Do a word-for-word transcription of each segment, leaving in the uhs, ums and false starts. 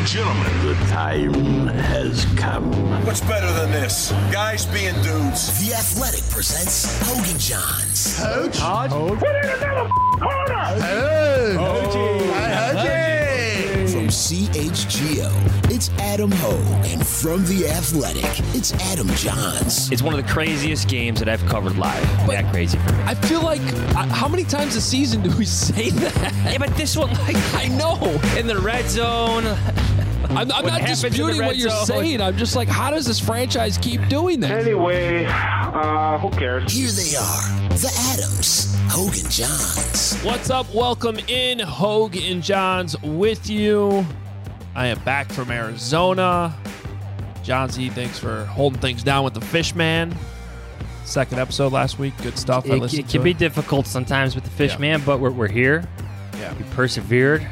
and gentlemen, the time has come. What's better than this? Guys being dudes. The Athletic presents Hogan Johns. Coach? Put in another corner! Hey! Hogan! From C H G O, it's Adam Hogue. And from The Athletic, it's Adam Johns. It's one of the craziest games that I've covered live. But that crazy for me. I feel like, uh, how many times a season do we say that? Yeah, but this one, like, I know. in the red zone. I'm, I'm not disputing what you're zone. saying. I'm just like, how does this franchise keep doing that? Anyway, uh, who cares? Here they are, the Adams, Hogue and Johns. What's up? Welcome in, Hogue and Johns with you. I am back from Arizona. Johnsy, thanks for holding things down with the Fishman. Second episode last week. Good stuff. I It, listened it to can it. be difficult sometimes with the fish Yeah. man, but we're, we're here. Yeah. We persevered.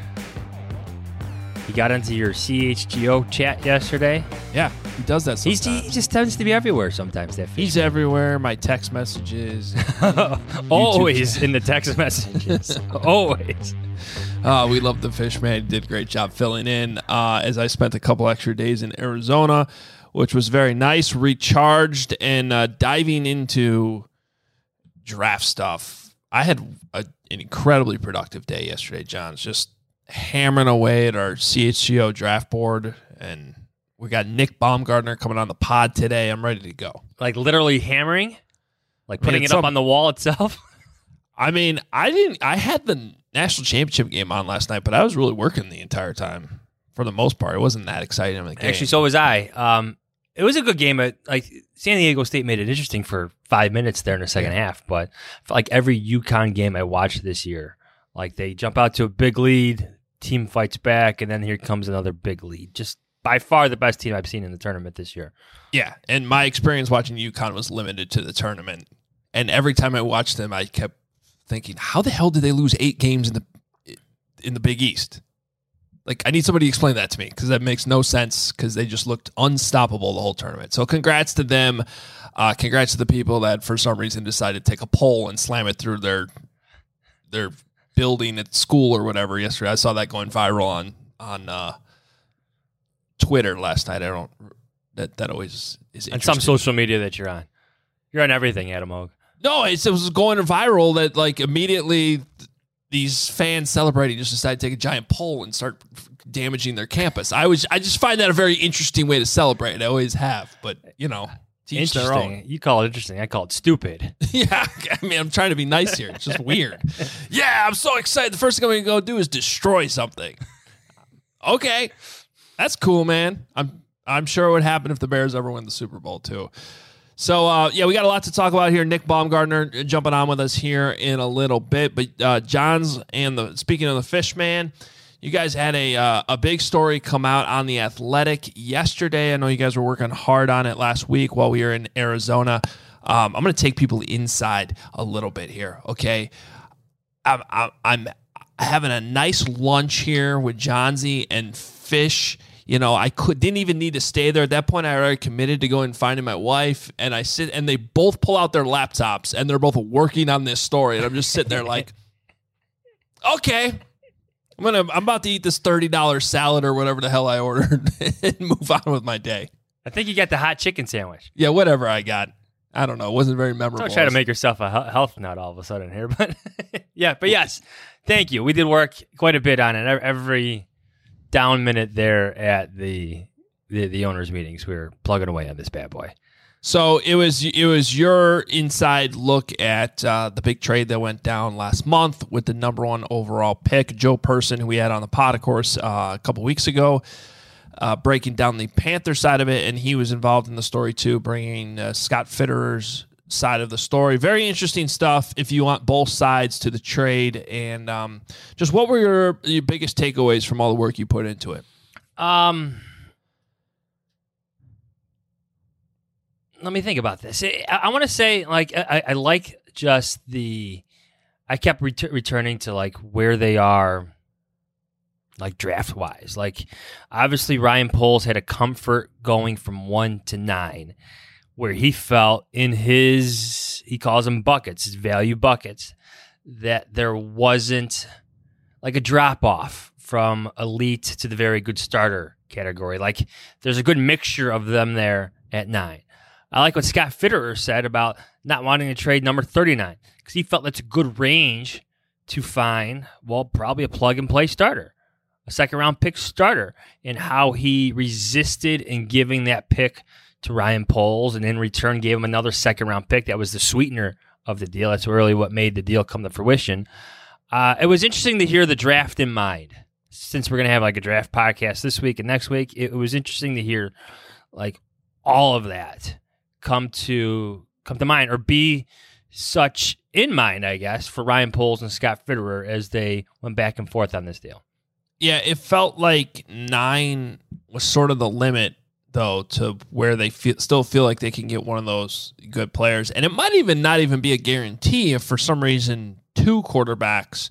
He got into your C H G O chat yesterday. Yeah, he does that He's, sometimes. he just tends to be everywhere sometimes, that fish. He's everywhere. My text messages. Always in the text messages. Always. Uh, we love the Fishman. He did a great job filling in uh, as I spent a couple extra days in Arizona, which was very nice, recharged, and uh, diving into draft stuff. I had a, an incredibly productive day yesterday, John. Just hammering away at our C H G O draft board, and we got Nick Baumgartner coming on the pod today. I'm ready to go. Like literally hammering? Like putting it's it up some- on the wall itself? I mean, I didn't. I had the national championship game on last night, but I was really working the entire time for the most part. It wasn't that exciting of a game. Actually, so was I. Um, it was a good game. At, like San Diego State made it interesting for five minutes there in the second Yeah. half, but I felt like every UConn game I watched this year, like they jump out to a big lead, team fights back, and then here comes another big lead. Just by far the best team I've seen in the tournament this year. Yeah, and my experience watching UConn was limited to the tournament, and every time I watched them, I kept thinking, how the hell did they lose eight games in the in the Big East? Like, I need somebody to explain that to me, because that makes no sense, because they just looked unstoppable the whole tournament. So congrats to them. Uh, congrats to the people that for some reason decided to take a pole and slam it through their their building at school or whatever yesterday. I saw that going viral on on uh, Twitter last night. I don't that that always is On interesting. some social media that you're on. You're on everything, Adam Hogue. No, it's, it was going viral that like immediately th- these fans celebrating just decided to take a giant pole and start f- damaging their campus. I was I just find that a very interesting way to celebrate. I always have, but you know, to each their own. Interesting. You call it interesting. I call it stupid. Yeah, I mean, I'm trying to be nice here. It's just weird. Yeah, I'm so excited. The first thing I'm going to go do is destroy something. Okay, that's cool, man. I'm I'm sure it would happen if the Bears ever win the Super Bowl too. So, uh, yeah, we got a lot to talk about here. Nick Baumgartner jumping on with us here in a little bit. But uh, Johns and the speaking of the Fishman, you guys had a uh, a big story come out on The Athletic yesterday. I know you guys were working hard on it last week while we were in Arizona. Um, I'm going to take people inside a little bit here, okay? I'm, I'm, I'm having a nice lunch here with Johnsy and Fish. You know, I could didn't even need to stay there. At that point, I already committed to going and finding my wife. And I sit, and they both pull out their laptops, and they're both working on this story. And I'm just sitting there like, okay, I'm gonna, I'm about to eat this thirty dollars salad or whatever the hell I ordered and move on with my day. I think you got the hot chicken sandwich. Yeah, whatever I got. I don't know. It wasn't very memorable. Don't try to make yourself a he- health nut all of a sudden here, but yeah, but yes, thank you. We did work quite a bit on it. Every down minute there at the the, the owners' meetings, we were plugging away on this bad boy. So it was it was your inside look at uh, the big trade that went down last month with the number one overall pick, Joe Person, who we had on the pod, of course, uh, a couple weeks ago, uh, breaking down the Panther side of it, and he was involved in the story too, bringing uh, Scott Fitterer's side of the story. Very interesting stuff if you want both sides to the trade. And um, just what were your, your biggest takeaways from all the work you put into it? Um, let me think about this. I, I want to say, like, I, I like just the. I kept ret- returning to like where they are, like draft wise. Like, obviously, Ryan Poles had a comfort going from one to nine, where he felt in his, he calls them buckets, his value buckets, that there wasn't like a drop off from elite to the very good starter category. Like, there's a good mixture of them there at nine. I like what Scott Fitterer said about not wanting to trade number thirty-nine because he felt that's a good range to find, well, probably a plug-and-play starter, a second-round pick starter, and how he resisted in giving that pick to Ryan Poles, and in return gave him another second-round pick. That was the sweetener of the deal. That's really what made the deal come to fruition. Uh, it was interesting to hear the draft in mind. Since we're going to have like a draft podcast this week and next week, it was interesting to hear like all of that come to come to mind or be such in mind, I guess, for Ryan Poles and Scott Fitterer as they went back and forth on this deal. Yeah, it felt like nine was sort of the limit, though, to where they feel, still feel like they can get one of those good players. And it might even not even be a guarantee if for some reason two quarterbacks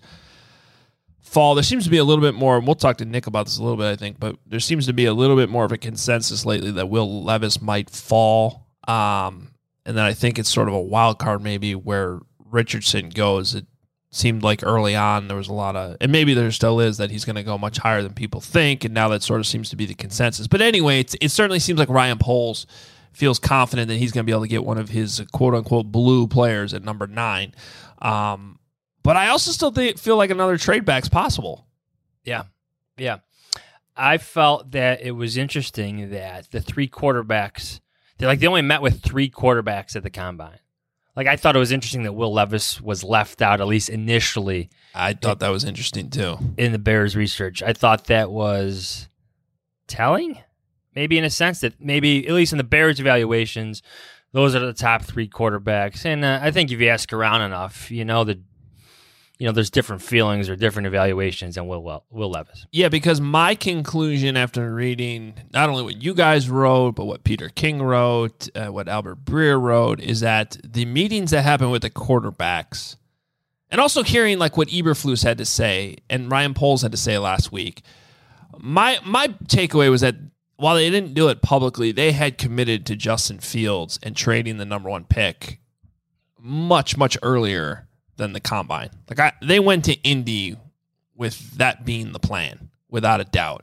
fall. There seems to be a little bit more, and we'll talk to Nick about this a little bit, I think, but there seems to be a little bit more of a consensus lately that Will Levis might fall. Um, and then I think it's sort of a wild card maybe where Richardson goes. It seemed like early on there was a lot of, and maybe there still is, that he's going to go much higher than people think, and now that sort of seems to be the consensus. But anyway, it's, it certainly seems like Ryan Poles feels confident that he's going to be able to get one of his quote-unquote blue players at number nine. Um, but I also still think, feel like another trade back's possible. Yeah, yeah. I felt that it was interesting that the three quarterbacks, they like they only met with three quarterbacks at the combine. Like, I thought it was interesting that Will Levis was left out, at least initially. I thought that was interesting, too. In the Bears research. I thought that was telling, maybe in a sense that maybe, at least in the Bears evaluations, those are the top three quarterbacks. And uh, I think if you ask around enough, you know, that you know, there's different feelings or different evaluations than Will, Will, Will Levis. Yeah, because my conclusion after reading not only what you guys wrote, but what Peter King wrote, uh, what Albert Breer wrote, is that the meetings that happen with the quarterbacks, and also hearing like what Eberflus had to say and Ryan Poles had to say last week, my my takeaway was that while they didn't do it publicly, they had committed to Justin Fields and trading the number one pick much, much earlier than the combine. Like I, they went to Indy with that being the plan, without a doubt.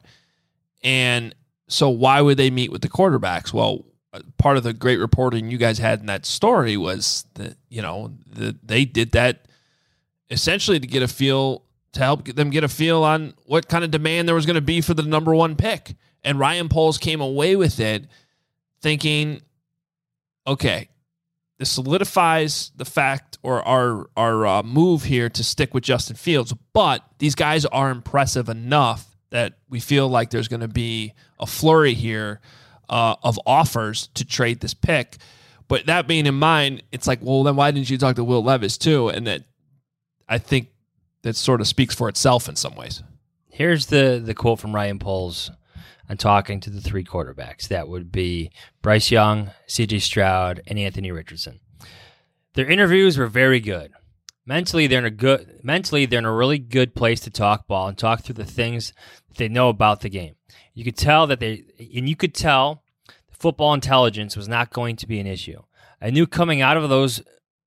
And so why would they meet with the quarterbacks? Well, part of the great reporting you guys had in that story was that, you know, the, they did that essentially to get a feel, to help them get a feel on what kind of demand there was going to be for the number one pick. And Ryan Poles came away with it thinking, okay, this solidifies the fact or our our uh, move here to stick with Justin Fields, but these guys are impressive enough that we feel like there's going to be a flurry here uh, of offers to trade this pick. But that being in mind, it's like, well, then why didn't you talk to Will Levis too? And that, I think that sort of speaks for itself in some ways. Here's the the quote from Ryan Poles on talking to the three quarterbacks. That would be Bryce Young, C J Stroud, and Anthony Richardson. Their interviews were very good. Mentally, they're in a good. Mentally, they're in a really good place to talk ball and talk through the things that they know about the game. You could tell that they, and you could tell, football intelligence was not going to be an issue. I knew coming out of those.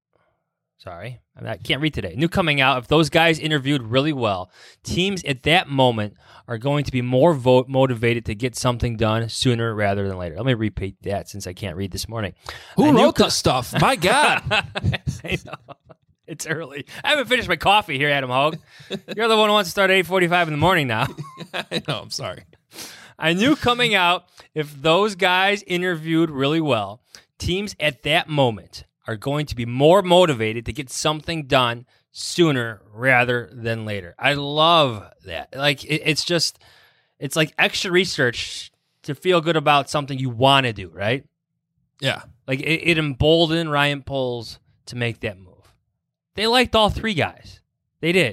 Sorry, I can't read today. I knew coming out, if those guys interviewed really well, teams at that moment are going to be more vote motivated to get something done sooner rather than later. Let me repeat that since I can't read this morning. Who I wrote this stuff? My God. I know. It's early. I haven't finished my coffee here, Adam Hogue. You're the one who wants to start at eight forty-five in the morning now. I know. I'm sorry. I knew coming out, if those guys interviewed really well, teams at that moment are going to be more motivated to get something done sooner rather than later. I love that. Like, it, it's just, it's like extra research to feel good about something you want to do, right? Yeah. Like, it, it emboldened Ryan Poles to make that move. They liked all three guys. They did.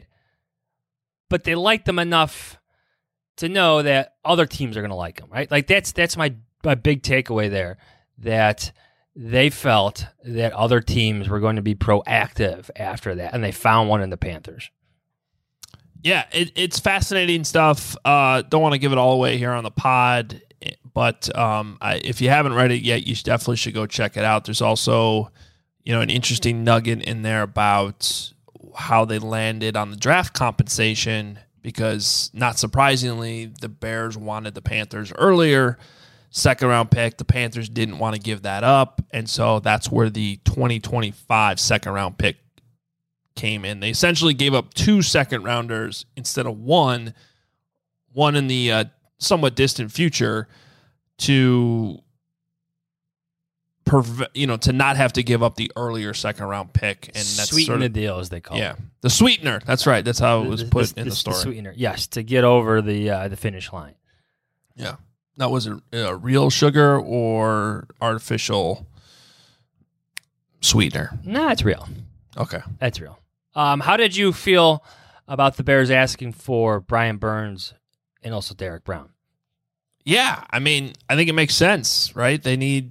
But they liked them enough to know that other teams are going to like them, right? Like, that's that's my, my big takeaway there, that they felt that other teams were going to be proactive after that, and they found one in the Panthers. Yeah, it, it's fascinating stuff. Uh, don't want to give it all away here on the pod, but um, I, if you haven't read it yet, you should, definitely should go check it out. There's also, you know, an interesting nugget in there about how they landed on the draft compensation, because, not surprisingly, the Bears wanted the Panthers earlier. Second round pick. The Panthers didn't want to give that up. And so that's where the twenty twenty-five second round pick came in. They essentially gave up two second rounders instead of one, one in the uh, somewhat distant future to, perve- you know, to not have to give up the earlier second round pick. And that's Sweeten sort of, the deal, as they call yeah, it. the sweetener. That's right. That's how it was The- put the- in the the story. sweetener, yes, to get over the uh, the finish line. Yeah. Now, was it uh, real sugar or artificial sweetener? No, it's real. Okay. That's real. Um, how did you feel about the Bears asking for Brian Burns and also Derek Brown? Yeah, I mean, I think it makes sense, right? They need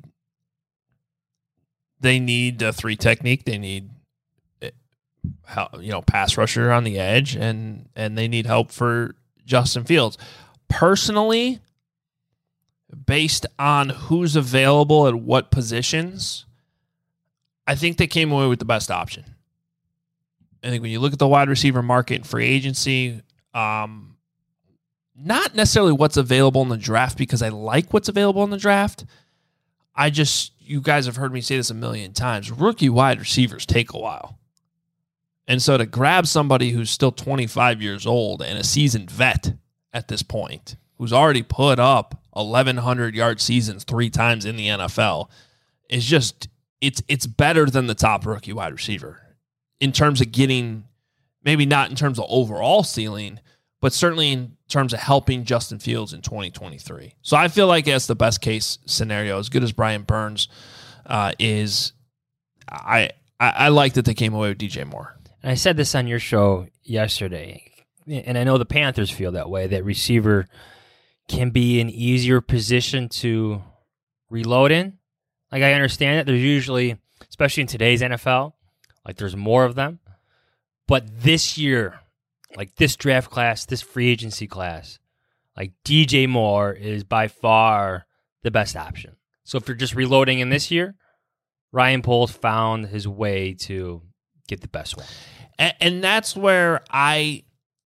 they need a three technique. They need help, you know, pass rusher on the edge, and and they need help for Justin Fields. Personally, based on who's available at what positions, I think they came away with the best option. I think when you look at the wide receiver market and free agency, um, not necessarily what's available in the draft, because I like what's available in the draft. I just, you guys have heard me say this a million times, rookie wide receivers take a while. And so to grab somebody who's still twenty-five years old and a seasoned vet at this point, who's already put up eleven hundred yard seasons three times in the N F L, is just, it's it's better than the top rookie wide receiver in terms of getting, maybe not in terms of overall ceiling, but certainly in terms of helping Justin Fields in twenty twenty-three. So I feel like that's the best case scenario. As good as Brian Burns uh, is, I, I I like that they came away with D J Moore. And I said this on your show yesterday, and I know the Panthers feel that way, that receiver can be an easier position to reload in. Like, I understand that there's usually, especially in today's N F L, like there's more of them. But this year, like this draft class, this free agency class, like D J Moore is by far the best option. So if you're just reloading in this year, Ryan Poles found his way to get the best one. And, and that's where I,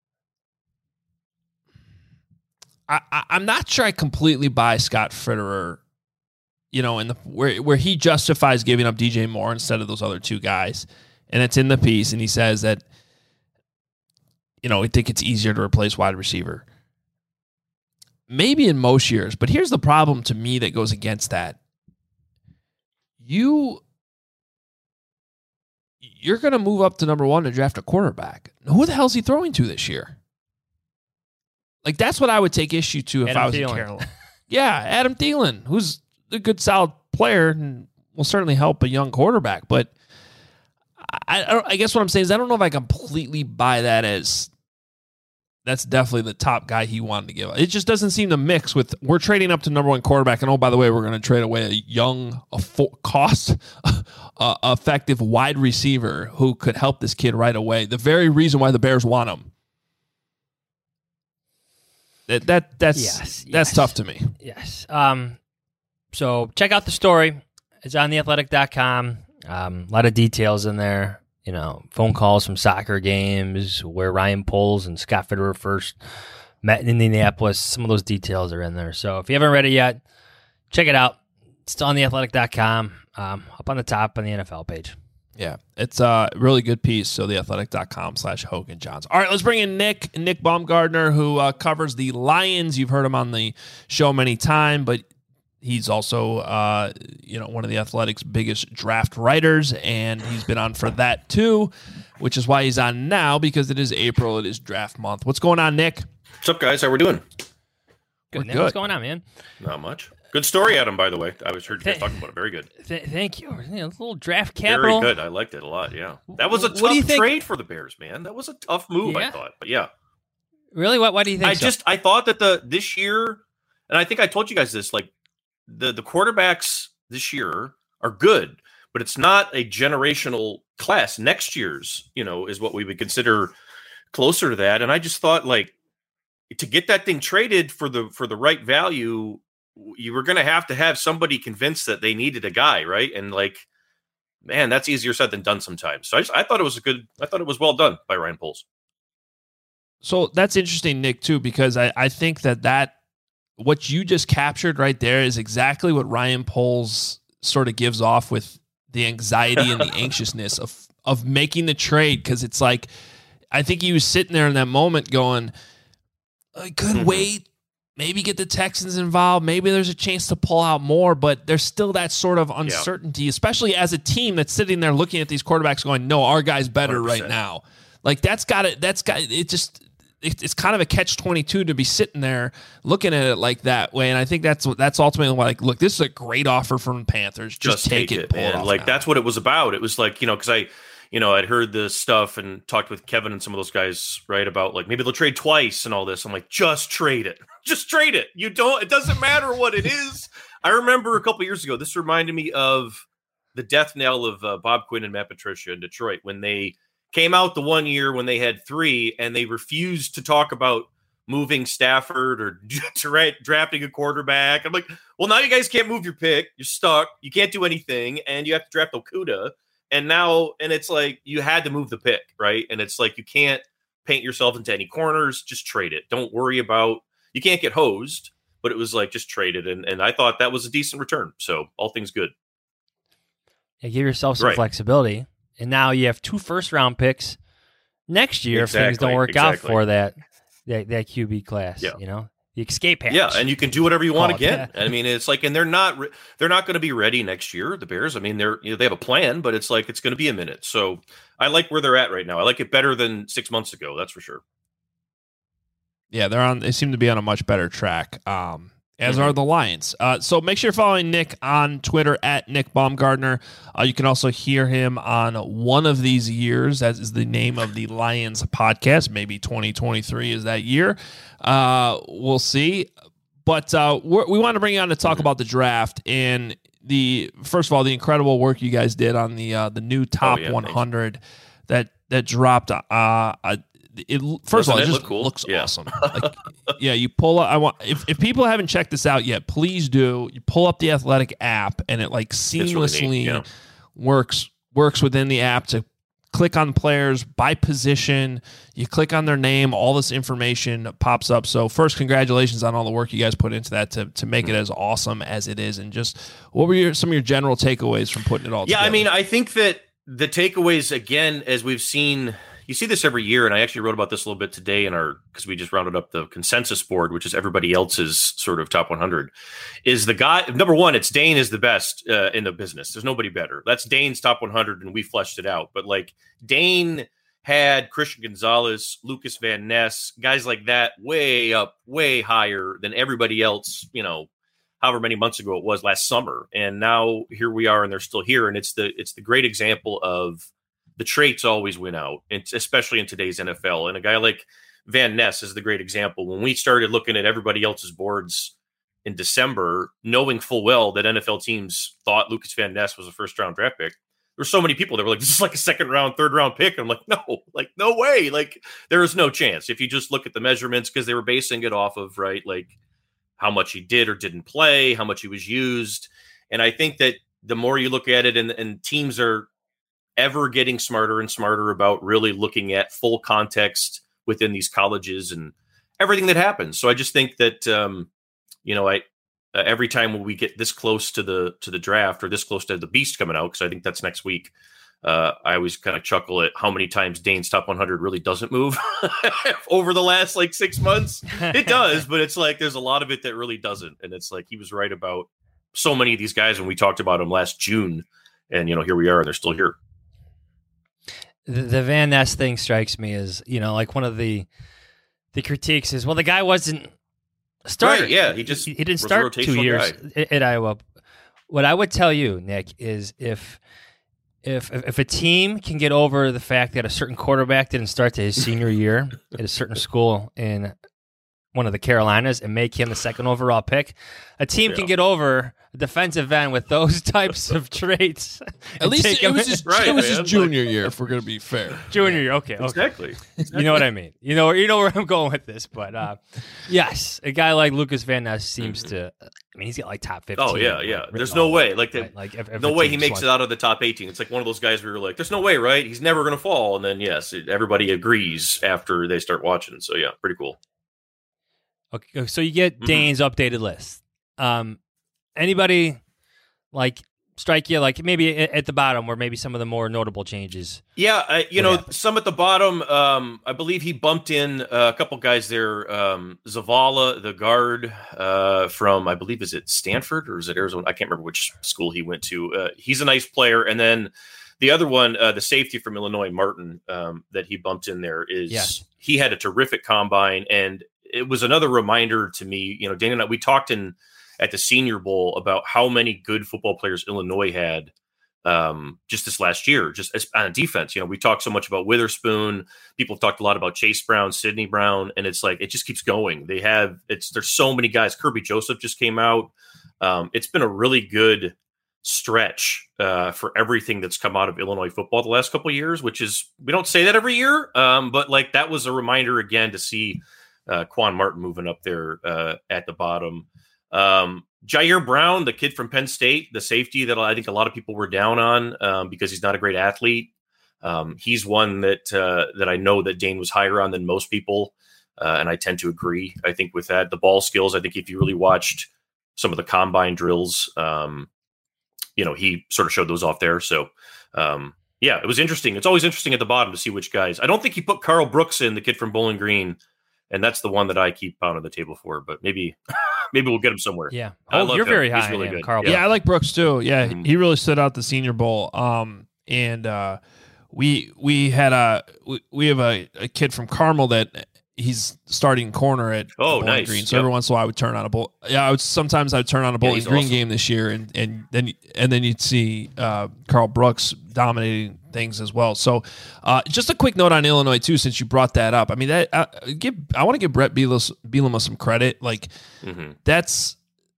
I, I'm not sure I completely buy Scott Fitterer, you know, in the where where he justifies giving up D J Moore instead of those other two guys. And it's in the piece, and he says that, you know, I think it's easier to replace wide receiver. Maybe in most years, but here's the problem to me that goes against that. You, you're going to move up to number one to draft a quarterback. Who the hell is he throwing to this year? Like, that's what I would take issue to if Adam I was Thielen. in Carolina. Yeah, Adam Thielen, who's a good, solid player and will certainly help a young quarterback. But I, I, I guess what I'm saying is I don't know if I completely buy that as that's definitely the top guy he wanted to give. It just doesn't seem to mix with, we're trading up to number one quarterback, and oh, by the way, we're going to trade away a young, a full cost uh, effective wide receiver who could help this kid right away. The very reason why the Bears want him. That, that that's Yes, that's yes. tough to me. Yes. Um, so check out the story. It's on the athletic dot com. Um, a lot of details in there. You know, phone calls from soccer games where Ryan Poles and Scott Fitterer first met in Indianapolis. Some of those details are in there. So if you haven't read it yet, check it out. It's on the athletic dot com, um, up on the top on the N F L page. Yeah, it's a really good piece. So the athletic dot com slash Hogan Johns. All right, let's bring in Nick, Nick Baumgardner, who uh, covers the Lions. You've heard him on the show many times, but he's also, uh, you know, one of the Athletic's biggest draft writers, and he's been on for that too, which is why he's on now, because it is April. It is draft month. What's going on, Nick? What's up, guys? How we doing? Good. We're Nick, good. What's going on, man? Not much. Good story, Adam, by the way. I was heard you guys talking about it. Very good. Th- thank you. You know, a little draft capital. Very good. I liked it a lot, yeah. That was a What do you tough think? trade for the Bears, man. That was a tough move, Yeah? I thought. But yeah. Really? What? Why do you think? I so? just I thought that the this year, and I think I told you guys this, like the, the quarterbacks this year are good, but it's not a generational class. Next year's, you know, is what we would consider closer to that. And I just thought, like, to get that thing traded for the for the right value, you were going to have to have somebody convinced that they needed a guy, right? And like, man, that's easier said than done sometimes. So I, just, I thought it was a good, I thought it was well done by Ryan Poles. So that's interesting, Nick, too, because I, I think that that what you just captured right there is exactly what Ryan Poles sort of gives off with the anxiety and the anxiousness of of making the trade, because it's like, I think he was sitting there in that moment going, I could mm-hmm. wait, maybe get the Texans involved, maybe there's a chance to pull out more, but there's still that sort of uncertainty, yeah. especially as a team that's sitting there looking at these quarterbacks going, no, our guy's better one hundred percent right now. Like that's got it. That's got it. Just it, it's kind of a catch twenty-two to be sitting there looking at it like that way. And I think that's that's ultimately like, look, this is a great offer from the Panthers. Just, Just take, take it, it pull it off like now. That's what it was about. It was like, you know, because I, you know, I'd heard this stuff and talked with Kevin and some of those guys, right, about like maybe they'll trade twice and all this. I'm like, just trade it. Just trade it. You don't. It doesn't matter what it is. I remember a couple years ago, this reminded me of the death knell of uh, Bob Quinn and Matt Patricia in Detroit when they came out the one year when they had three and they refused to talk about moving Stafford or dra- drafting a quarterback. I'm like, well, now you guys can't move your pick. You're stuck. You can't do anything. And you have to draft Okudah. And now, and it's like, you had to move the pick, right? And it's like, you can't paint yourself into any corners. Just trade it. Don't worry about, you can't get hosed, but it was like, just trade it. And, and I thought that was a decent return. So all things good. Yeah, give yourself some right. flexibility. And now you have two first-round picks next year exactly, if things don't work exactly. out for that, that that Q B class. Yeah. You know, the escape hatch. Yeah, and you can do whatever you want again. That. I mean, it's like, and they're not re- they're not going to be ready next year. The Bears. I mean, they're you know, they have a plan, but it's like it's going to be a minute. So I like where they're at right now. I like it better than six months ago. That's for sure. Yeah, they're on. They seem to be on a much better track. Um, as mm-hmm. are the Lions. Uh, so make sure you're following Nick on Twitter at Nick Baumgardner. Uh, you can also hear him on One of These Years. That is the name of the Lions podcast. Maybe twenty twenty-three is that year. Uh, we'll see. But uh, we're, we want to bring you on to talk mm-hmm. about the draft and the first of all the incredible work you guys did on the uh, the new top oh, yeah, one hundred that that dropped. Uh, uh, It, first Doesn't of all, it, it just look cool? looks yeah. awesome. Like, yeah, you pull up. I want if, if people haven't checked this out yet, please do. You pull up the Athletic app, and it like seamlessly really neat, yeah. works works within the app to click on players by position. You click on their name, all this information pops up. So first, congratulations on all the work you guys put into that to to make it as awesome as it is. And just what were your, some of your general takeaways from putting it all yeah, together? I mean, I think that the takeaways, again, as we've seen. You see this every year, and I actually wrote about this a little bit today in our because we just rounded up the consensus board, which is everybody else's sort of top one hundred. Is the guy number one? It's Dane is the best uh, in the business. There's nobody better. That's Dane's top one hundred, and we fleshed it out. But like Dane had Christian Gonzalez, Lucas Van Ness, guys like that, way up, way higher than everybody else. You know, however many months ago it was last summer, and now here we are, and they're still here, and it's the it's the great example of. The traits always win out, especially in today's N F L. And a guy like Van Ness is the great example. When we started looking at everybody else's boards in December, knowing full well that N F L teams thought Lucas Van Ness was a first-round draft pick, there were so many people that were like, this is like a second-round, third-round pick. And I'm like, no, like, no way. Like, there is no chance. If you just look at the measurements, because they were basing it off of, right, like how much he did or didn't play, how much he was used. And I think that the more you look at it, and, and teams are ever getting smarter and smarter about really looking at full context within these colleges and everything that happens. So I just think that, um, you know, I, uh, every time when we get this close to the, to the draft or this close to the beast coming out, cause I think that's next week. Uh, I always kind of chuckle at how many times Dane's top one hundred really doesn't move over the last like six months. It does, but it's like, there's a lot of it that really doesn't. And it's like, he was right about so many of these guys when we talked about them last June, and, you know, here we are, and they're still here. The, the Van Ness thing strikes me as, you know, like one of the the critiques is, well, the guy wasn't a starter. Right, yeah, he just he, he didn't start two years at, at Iowa. What I would tell you, Nick, is if if if a team can get over the fact that a certain quarterback didn't start to his senior year at a certain school in one of the Carolinas and make him the second overall pick. A team Yeah. can get over a defensive end with those types of traits. At least it, it was his, Right, it was man. his junior year, if we're going to be fair. junior year. Okay, okay. Exactly. You know what I mean. You know, you know where I'm going with this. But uh, yes, a guy like Lucas Van Ness seems to. I mean, he's got like top fifteen. Oh yeah, yeah. written There's all no over way. it, Like, the, right? like if, if no a way team he makes swung- it out of the top eighteen. It's like one of those guys where you're like, "There's no way, right? He's never going to fall." And then yes, it, everybody agrees after they start watching. So yeah, pretty cool. Okay, so you get Mhm. Dane's updated list. Um, anybody like strike you like maybe at at the bottom where maybe some of the more notable changes? Yeah, I, you What know, happened? some at the bottom. Um, I believe he bumped in uh, a couple guys there. Um, Zavala, the guard uh, from, I believe, is it Stanford or is it Arizona? I can't remember which school he went to. Uh, he's a nice player. And then the other one, uh, the safety from Illinois, Martin, um, that he bumped in there is Yes. he had a terrific combine, and it was another reminder to me. You know, Dana and I, we talked in at the Senior Bowl about how many good football players Illinois had um, just this last year, just as, on defense. You know, we talked so much about Witherspoon. People have talked a lot about Chase Brown, Sidney Brown, and it's like it just keeps going. They have it's there's so many guys. Kirby Joseph just came out. Um, it's been a really good stretch uh, for everything that's come out of Illinois football the last couple of years, which is we don't say that every year, um, but like that was a reminder again to see uh, Quan Martin moving up there uh, at the bottom. Um, Jair Brown, the kid from Penn State, the safety that I think a lot of people were down on um, because he's not a great athlete. Um, he's one that uh, that I know that Dane was higher on than most people, uh, and I tend to agree. I think with that, the ball skills. I think if you really watched some of the combine drills, um, you know, he sort of showed those off there. So, um, yeah, it was interesting. It's always interesting at the bottom to see which guys. I don't think he put Carl Brooks in, the kid from Bowling Green, and that's the one that I keep pounding the table for. But maybe. Maybe we'll get him somewhere. Yeah. I Oh, love you're him. very He's high really on him, good. Carl. Yeah, I like Brooks too. Yeah, Mhm. he really stood out the Senior Bowl. Um, and uh, we we had a we, we have a, a kid from Carmel that he's starting corner at Oh, Bowling nice. Green. So Yep. every once in a while I would turn on a bowl. Yeah, I would sometimes I would turn on a Bowling he's Green awesome. game this year, and and then and then you'd see uh, Carl Brooks dominating things as well. So uh, just a quick note on Illinois too, since you brought that up. I mean, that uh, give I want to give Brett Bielema, Bielema some credit. Like Mhm. that's.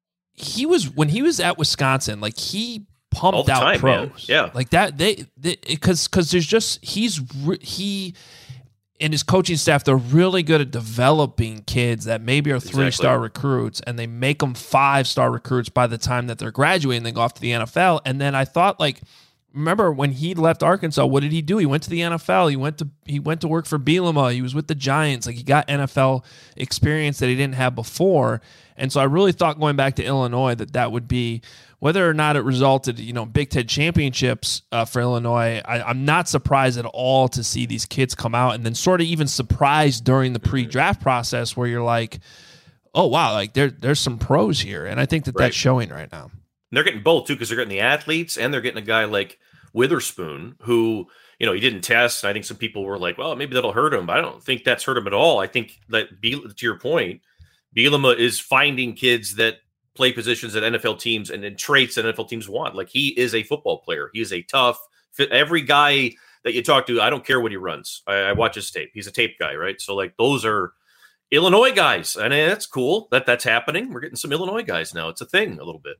He was when he was at Wisconsin, like he pumped All the out time, pros, man. Yeah. like that. They because because there's just he's re- he and his coaching staff. They're really good at developing kids that maybe are three star recruits, and they make them five star recruits by the time that they're graduating. They go off to the N F L, and then I thought like. Remember when he left Arkansas, what did he do? He went to the N F L. He went to he went to work for Bielema. He was with the Giants. Like he got N F L experience that he didn't have before. And so I really thought going back to Illinois that that would be whether or not it resulted, you know, Big Ten championships uh, for Illinois. I, I'm not surprised at all to see these kids come out, and then sort of even surprised during the pre-draft process where you're like, oh wow, like there there's some pros here, and I think that Right. that's showing right now. And they're getting both too, because they're getting the athletes and they're getting a guy like Witherspoon, who, you know, he didn't test. And I think some people were like, well, maybe that'll hurt him. But I don't think that's hurt him at all. I think that, Be- to your point, Bielema is finding kids that play positions at N F L teams and in traits that N F L teams want. Like he is a football player. He is a tough fit. Every guy that you talk to, I don't care what he runs. I, I watch his tape. He's a tape guy, right? So like those are Illinois guys. And that's cool that that's happening. We're getting some Illinois guys now. It's a thing a little bit.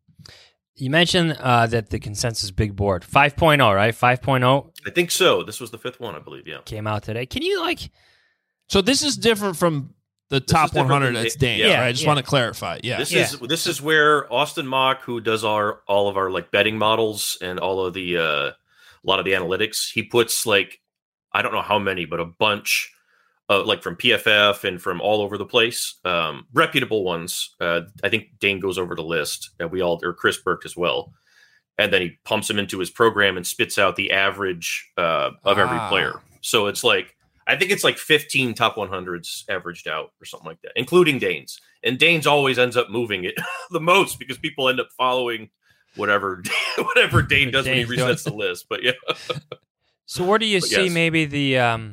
You mentioned uh, that the consensus big board five point oh, right? five point oh I think so. This was the fifth one, I believe. Yeah. came out today. Can you like So this is different from the top is different one hundred than that's Da- Dane, yeah. right? I just Yeah. want to clarify. Yeah. This Yeah. is this is where Austin Mock, who does our all of our like betting models and all of the uh, a lot of the analytics, he puts like I don't know how many, but a bunch of like from P F F and from all over the place, um, reputable ones. Uh, I think Dane goes over the list, and we all or Chris Burke as well, and then he pumps them into his program and spits out the average uh, of every Ah. player. So it's like. I think it's like fifteen top one hundreds averaged out or something like that, including Dane's. And Dane's always ends up moving it the most because people end up following whatever whatever Dane does Dane's when he resets the list. But yeah, so where do you But see yes. maybe the um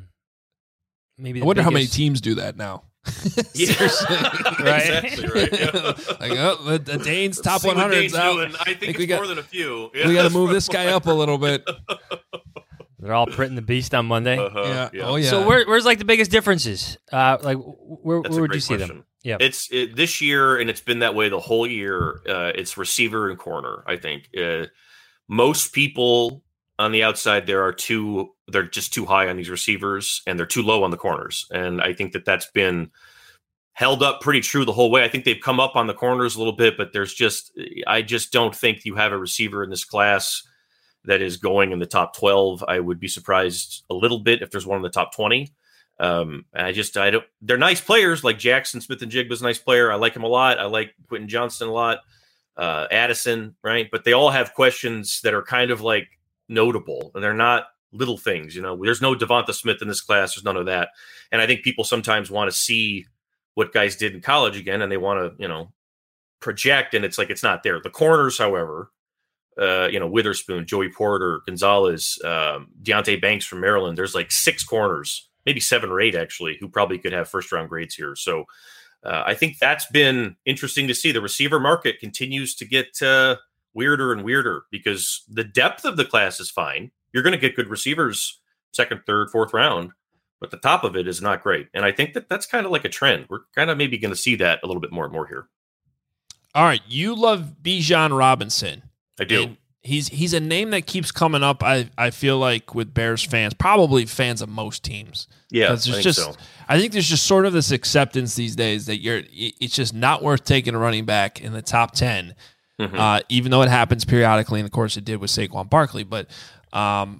maybe I the wonder how many biggest- teams do that now. yeah. Seriously. Right? exactly right. Yeah. Like, oh, the, the Dane's top See what one hundred Dane's is out. doing. I think, Think it's we got- more than a few. We got to move this guy up a little bit. They're all printing the beast on Monday. Uh-huh, Yeah. yeah. Oh yeah. So where, where's like the biggest differences? Uh, like where, That's where a would great you see question. them? Yeah. It's it, this year, and it's been that way the whole year. Uh, it's receiver and corner. I think uh, most people on the outside there are too. They're just too high on these receivers, and they're too low on the corners. And I think that that's been held up pretty true the whole way. I think they've come up on the corners a little bit, but there's just I just don't think you have a receiver in this class that is going in the top twelve. I would be surprised a little bit if there's one in the top twenty. Um, I just, I don't, they're nice players like Jackson Smith and Jigba's a nice player. I like him a lot. I like Quentin Johnston a lot. Uh, Addison, right. But they all have questions that are kind of like notable, and they're not little things, you know. There's no Devonta Smith in this class. There's none of that. And I think people sometimes want to see what guys did in college again, and they want to, you know, project, and it's like, it's not there. The corners, however, uh, you know, Witherspoon, Joey Porter, Gonzalez, um, Deontay Banks from Maryland, there's like six corners, maybe seven or eight actually, who probably could have first round grades here. So uh, I think that's been interesting to see. The receiver market continues to get uh, weirder and weirder because the depth of the class is fine. You're going to get good receivers second, third, fourth round, but the top of it is not great. And I think that that's kind of like a trend. We're kind of maybe going to see that a little bit more and more here. All right, you love Bijan Robinson. I do. And he's he's a name that keeps coming up. I, I feel like with Bears fans, probably fans of most teams. Yeah, there's I think just so. I think there's just sort of this acceptance these days that you're it's just not worth taking a running back in the top ten, Mm-hmm. uh, even though it happens periodically, and of course it did with Saquon Barkley. But um,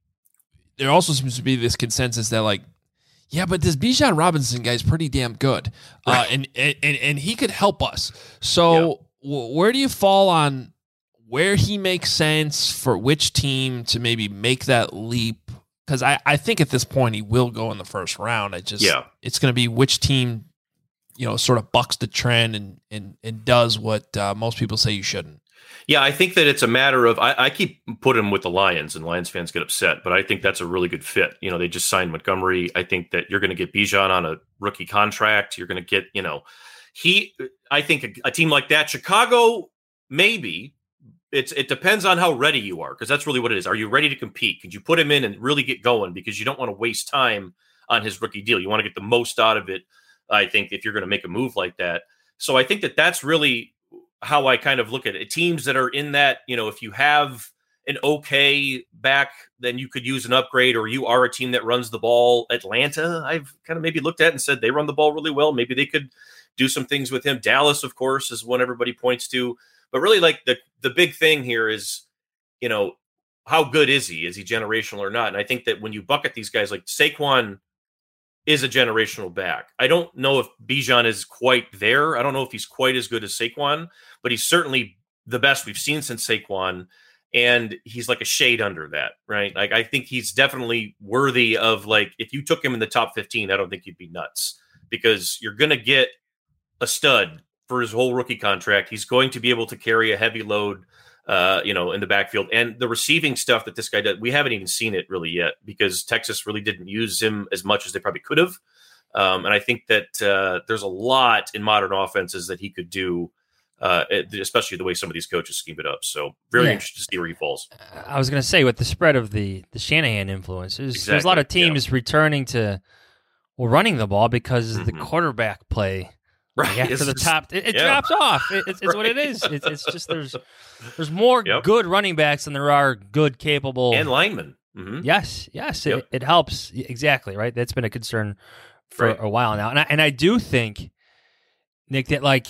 there also seems to be this consensus that like, yeah, but this Bijan Robinson guy is pretty damn good, uh, and, and and he could help us. So yeah. w- where do you fall on where he makes sense for which team to maybe make that leap? Because I, I think at this point he will go in the first round. I just Yeah. it's going to be which team, you know, sort of bucks the trend and and and does what uh, most people say you shouldn't. Yeah, I think that it's a matter of I, I keep putting him with the Lions, and Lions fans get upset, but I think that's a really good fit. You know, they just signed Montgomery. I think that you're going to get Bijan on a rookie contract. You're going to get, you know, he. I think a, a team like that, Chicago, maybe. It's it depends on how ready you are, because that's really what it is. Are you ready to compete? Could you put him in and really get going? Because you don't want to waste time on his rookie deal. You want to get the most out of it, I think, if you're going to make a move like that. So I think that that's really how I kind of look at it. Teams that are in that, you know, if you have an okay back, then you could use an upgrade, or you are a team that runs the ball. Atlanta, I've kind of maybe looked at and said they run the ball really well. Maybe they could do some things with him. Dallas, of course, is one everybody points to. But really, like the the big thing here is, you know, how good is he? Is he generational or not? And I think that when you bucket these guys, like Saquon is a generational back. I don't know if Bijan is quite there. I don't know if he's quite as good as Saquon, but he's certainly the best we've seen since Saquon. And he's like a shade under that, right? Like, I think he's definitely worthy of, like, if you took him in the top fifteen, I don't think you'd be nuts, because you're going to get a stud for his whole rookie contract. He's going to be able to carry a heavy load, uh, you know, in the backfield. And the receiving stuff that this guy does, we haven't even seen it really yet, because Texas really didn't use him as much as they probably could have. Um, and I think that uh, there's a lot in modern offenses that he could do, uh, especially the way some of these coaches scheme it up. So very Yeah. interested to see where he falls. I was going to say, with the spread of the, the Shanahan influences, Exactly, there's a lot of teams returning to, well, running the ball because Mhm. the quarterback play. Right. After It's the just- top, it, it yeah. drops off. It, it's, it's what it Right. is. It, it's just there's there's more Yep. good running backs than there are good, capable. And linemen. Mhm. Yes, yes, Yep. it, it helps. Exactly, right? That's been a concern for Right. a while now. And I, and I do think, Nick, that like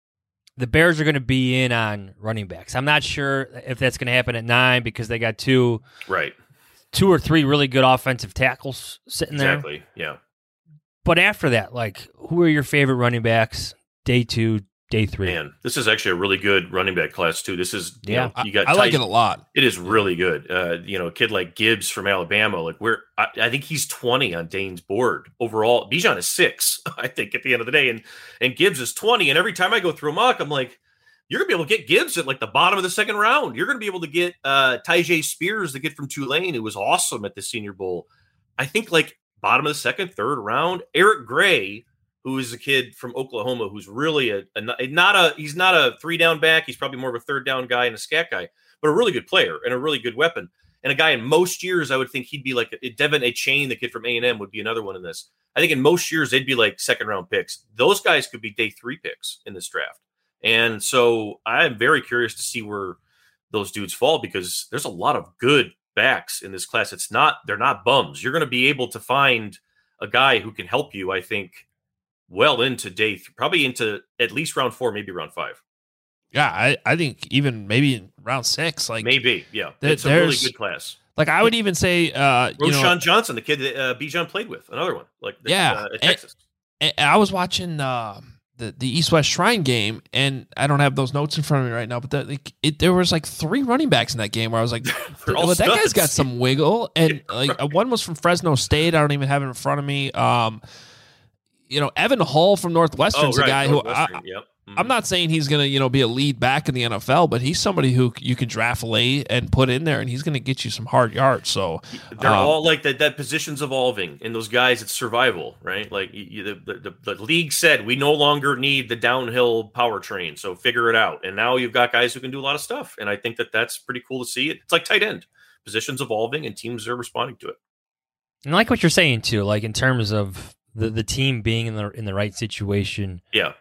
the Bears are going to be in on running backs. I'm not sure if that's going to happen at nine, because they got two Right. two or three really good offensive tackles sitting there. Exactly. Yeah. But after that, like, who are your favorite running backs day two, day three? Man, this is actually a really good running back class too. This is, you Yeah. know, you got I like Tyson- it a lot. It is really good. Uh, you know, a kid like Gibbs from Alabama, like where I, I think he's twenty on Dane's board overall. Bijan is six, I think, at the end of the day, and and Gibbs is twenty. And every time I go through a mock, I'm like, you're gonna be able to get Gibbs at like the bottom of the second round. You're gonna be able to get uh, Tyjae Spears, the kid from Tulane, who was awesome at the Senior Bowl. I think like bottom of the second, third round. Eric Gray, who is a kid from Oklahoma, who's really a, a not a he's not a three down back. He's probably more of a third down guy and a scat guy, but a really good player and a really good weapon. And a guy in most years, I would think he'd be like a, Devin A. Chain, the kid from A and M, would be another one in this. I think in most years, they'd be like second round picks. Those guys could be day three picks in this draft. And so I'm very curious to see where those dudes fall, because there's a lot of good backs in this class. It's not, they're not bums. You're going to be able to find a guy who can help you, I think, well into day three, probably into at least round four, maybe round five. Yeah, I, I think even maybe in round six, like maybe, yeah, th- it's a really good class. Like I would even say, uh, you Roshan know, Johnson, the kid that uh, Bijan played with, another one, like yeah, uh, at Texas. And, and I was watching uh, the the East West Shrine game, and I don't have those notes in front of me right now, but the, like, it, there was like three running backs in that game where I was like, well, that studs. guy's got some wiggle, and Yeah, like right. one was from Fresno State. I don't even have it in front of me. Um, you know, Evan Hall from Northwestern's Oh, right, a guy who I, Northwestern, yep. I'm not saying he's going to, you know, be a lead back in the N F L, but he's somebody who you can draft late and put in there, and he's going to get you some hard yards. So They're um, all like that. That position's evolving, and those guys, it's survival, right? Like you, you, the, the the league said, we no longer need the downhill power train, so figure it out. And now you've got guys who can do a lot of stuff, and I think that that's pretty cool to see. It. It's like tight end, positions evolving, and teams are responding to it. And I like what you're saying too, like in terms of the, the team being in the in the right situation. Yeah.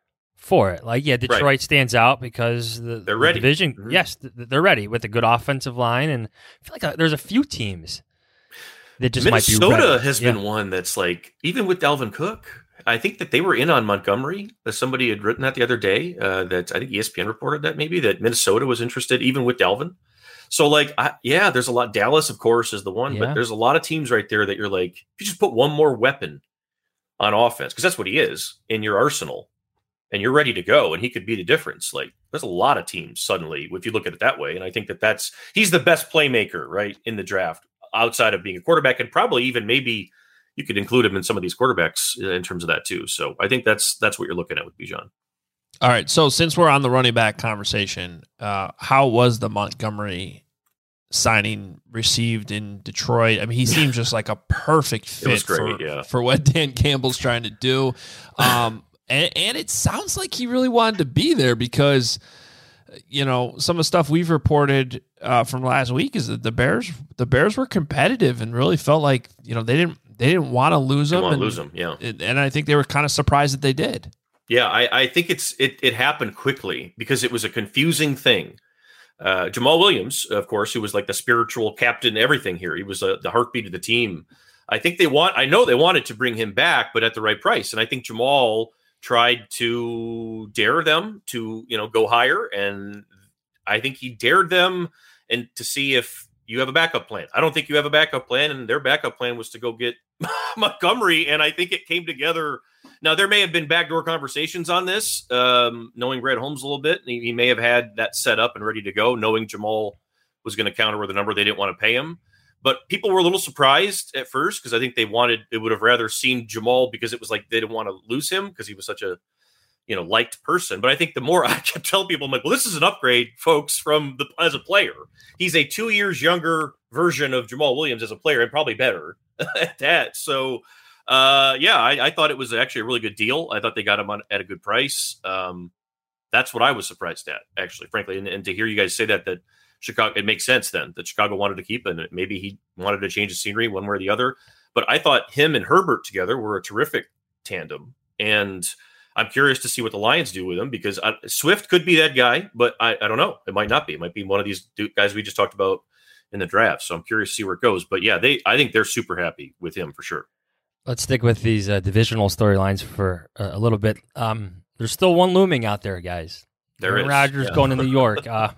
For it. Like, yeah, Detroit Right. stands out because the, They're the ready. division, Mhm. yes, th- they're ready with a good offensive line. And I feel like uh, there's a few teams that just Minnesota might be ready. has Yeah. been one that's like, even with Dalvin Cook, I think that they were in on Montgomery. Uh, Somebody had written that the other day. Uh, that I think E S P N reported that maybe that Minnesota was interested even with Dalvin. So like, I, yeah, there's a lot. Dallas, of course, is the one, Yeah. but there's a lot of teams right there that you're like, if you just put one more weapon on offense, because that's what he is in your arsenal, and you're ready to go, and he could be the difference. Like, there's a lot of teams suddenly, if you look at it that way. And I think that that's, he's the best playmaker, right, in the draft, outside of being a quarterback, and probably even maybe you could include him in some of these quarterbacks in terms of that too. So I think that's, that's what you're looking at with Bijan. all right. So since we're on the running back conversation, uh, how was the Montgomery signing received in Detroit? I mean, he seems just like a perfect It was fit great, for, yeah. for what Dan Campbell's trying to do. Um, and, and it sounds like he really wanted to be there because, you know, some of the stuff we've reported uh, from last week is that the Bears, the Bears were competitive and really felt like, you know, they didn't, they didn't want to lose They him. want to and, lose him, yeah. and I think they were kind of surprised that they did. Yeah, I, I think it's it, it happened quickly because it was a confusing thing. Uh, Jamal Williams, of course, who was like the spiritual captain, everything here. He was uh, the heartbeat of the team. I think they want. I know they wanted to bring him back, but at the right price. And I think Jamal tried to dare them to, you know, go higher. And I think he dared them and to see if you have a backup plan. I don't think you have a backup plan, and their backup plan was to go get Montgomery. And I think it came together. Now, there may have been backdoor conversations on this, um, knowing Brad Holmes a little bit. He, he may have had that set up and ready to go, knowing Jamal was going to counter with a number they didn't want to pay him. But people were a little surprised at first because I think they wanted, they would have rather seen Jamal because it was like they didn't want to lose him because he was such a, you know, liked person. But I think the more I kept telling people, I'm like, well, this is an upgrade, folks, from the as a player. He's a two years younger version of Jamal Williams as a player and probably better at that. So, uh, yeah, I, I thought it was actually a really good deal. I thought they got him on at a good price. Um, that's what I was surprised at, actually, frankly. And, and to hear you guys say that, that Chicago, it makes sense then that Chicago wanted to keep him. Maybe he wanted to change the scenery one way or the other. But I thought him and Herbert together were a terrific tandem. And I'm curious to see what the Lions do with him because I, Swift could be that guy, but I, I don't know. It might not be. It might be one of these guys we just talked about in the draft. So I'm curious to see where it goes. But yeah, they I think they're super happy with him for sure. Let's stick with these uh, divisional storylines for uh, a little bit. Um, there's still one looming out there, guys. There Aaron is. Rodgers Yeah. going to New York. Uh,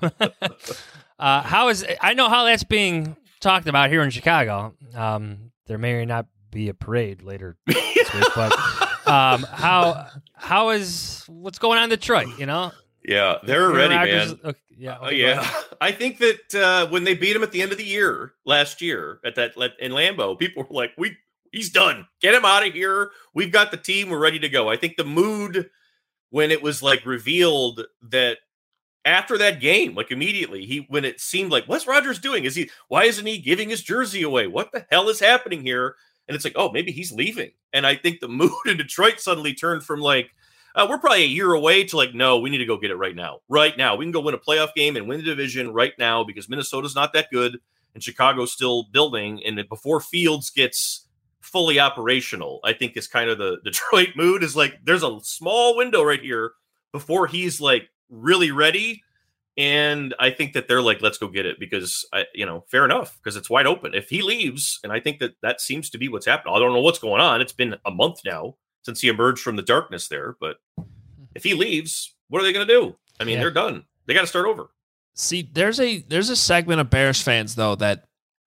uh, how is I know how that's being talked about here in Chicago. Um, there may or not be a parade later this week, but um, how how is what's going on in Detroit? You know, Yeah, they're Aaron ready, Rodgers- man. okay, yeah, Uh, okay, go yeah, ahead. I think that uh, when they beat him at the end of the year last year at that in Lambeau, people were like, "We, he's done. Get him out of here. We've got the team. We're ready to go." I think the mood when it was like revealed that after that game, like immediately, he when it seemed like, "What's Rodgers doing? Is he? Why isn't he giving his jersey away? What the hell is happening here?" And it's like, "Oh, maybe he's leaving." And I think the mood in Detroit suddenly turned from like, Uh, we're probably a year away to like, no, we need to go get it right now. Right now. We can go win a playoff game and win the division right now because Minnesota's not that good. and Chicago's still building. And before Fields gets fully operational, I think is kind of the Detroit mood is like, there's a small window right here before he's like really ready. And I think that they're like, let's go get it because, I, you know, fair enough, because it's wide open. If he leaves, and I think that that seems to be what's happening. I don't know what's going on. It's been a month now since he emerged from the darkness there. But if he leaves, what are they going to do? I mean, yeah. they're done. They got to start over. See, there's a there's a segment of Bears fans, though, that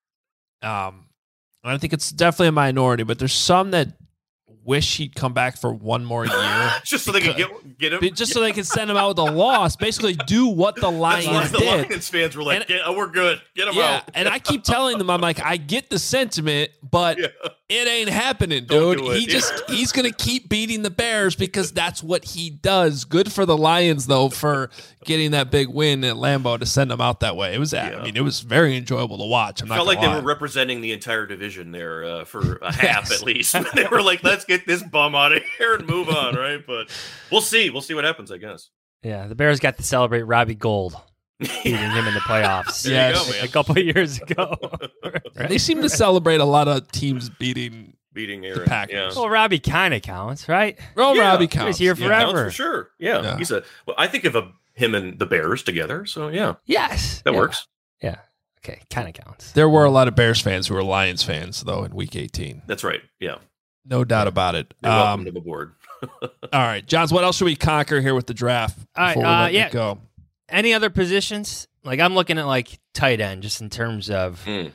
um, I think it's definitely a minority, but there's some that wish he'd come back for one more year. just so they could get, get him? Just so they could send him out with a loss. Basically do what the Lions That's why did. The Lions fans were like, and, get, oh, we're good. Get him yeah, out. And I keep telling them, I'm like, I get the sentiment, but yeah. it ain't happening, dude. Do he just yeah. he's going to keep beating the Bears because that's what he does. Good for the Lions, though, for getting that big win at Lambeau to send them out that way. It was, yeah. I mean, it was very enjoyable to watch. I'm I not felt like lie. they were representing the entire division there uh, for a half yes. at least. They were like, let's get this bum out of here and move on, right? But we'll see. We'll see what happens, I guess. Yeah, the Bears got to celebrate Robbie Gould beating him in the playoffs. Yeah, a couple of years ago. Right? They seem to celebrate a lot of teams beating beating Aaron. the Packers. Yeah. Well, Robbie kind of counts, right? Well, yeah. Robbie counts. He's here yeah. forever. Counts for sure. Yeah. yeah, he's a. Well, I think of a, him and the Bears together. So yeah, yes, that yeah. works. Yeah. Okay, kind of counts. There were a lot of Bears fans who were Lions fans, though, in Week eighteen. That's right. Yeah, no doubt about it. You're um, welcome to the board. All right, Johns, what else should we conquer here with the draft All before right, uh, we let yeah. it go? Any other positions? Like I'm looking at like tight end, just in terms of mm.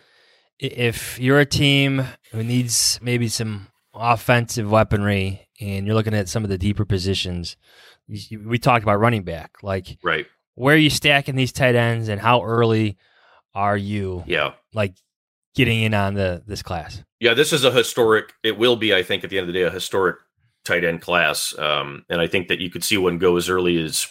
if you're a team who needs maybe some offensive weaponry, and you're looking at some of the deeper positions. You, we talked about running back, like right. where are you stacking these tight ends, and how early are you? Yeah, like getting in on the this class. Yeah, this is a historic. It will be, I think, at the end of the day, a historic tight end class. Um, and I think that you could see one go as early as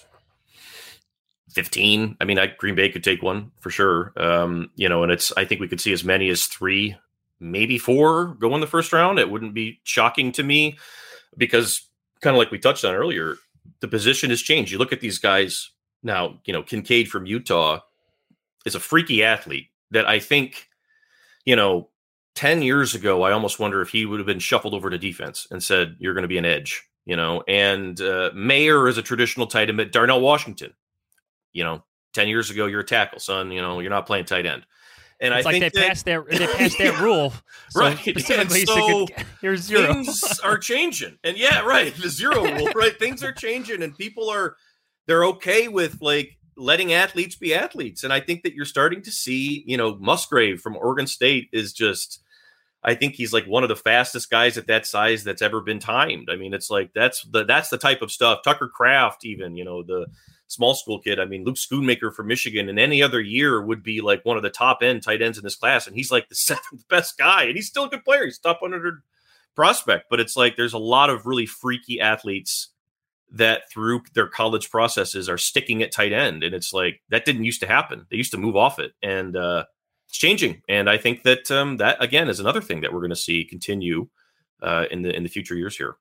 fifteen. I mean, I, Green Bay could take one for sure. Um, you know, and it's, I think we could see as many as three, maybe four go in the first round. It wouldn't be shocking to me because kind of like we touched on earlier, the position has changed. You look at these guys now, you know, Kincaid from Utah is a freaky athlete that I think, you know, ten years ago, I almost wonder if he would have been shuffled over to defense and said, you're going to be an edge, you know, and uh, Mayer is a traditional tight end, but Darnell Washington, you know, ten years ago, you're a tackle, son, you know, you're not playing tight end. And it's I like think they that, passed that they passed that rule, so right? Specifically, so here's zero. Things are changing, and yeah, right, the zero rule, right? Things are changing, and people are they're okay with like letting athletes be athletes, and I think that you're starting to see, you know, Musgrave from Oregon State is just. I think he's like one of the fastest guys at that size that's ever been timed. I mean, it's like that's the that's the type of stuff. Tucker Kraft, even, you know, the small school kid. I mean, Luke Schoonmaker from Michigan, and any other year would be like one of the top end tight ends in this class, and he's like the seventh best guy, and he's still a good player. He's top one hundred prospect, but it's like there's a lot of really freaky athletes that through their college processes are sticking at tight end, and it's like that didn't used to happen. They used to move off it, and uh, it's changing. And I think that um, that again is another thing that we're going to see continue uh, in the in the future years here.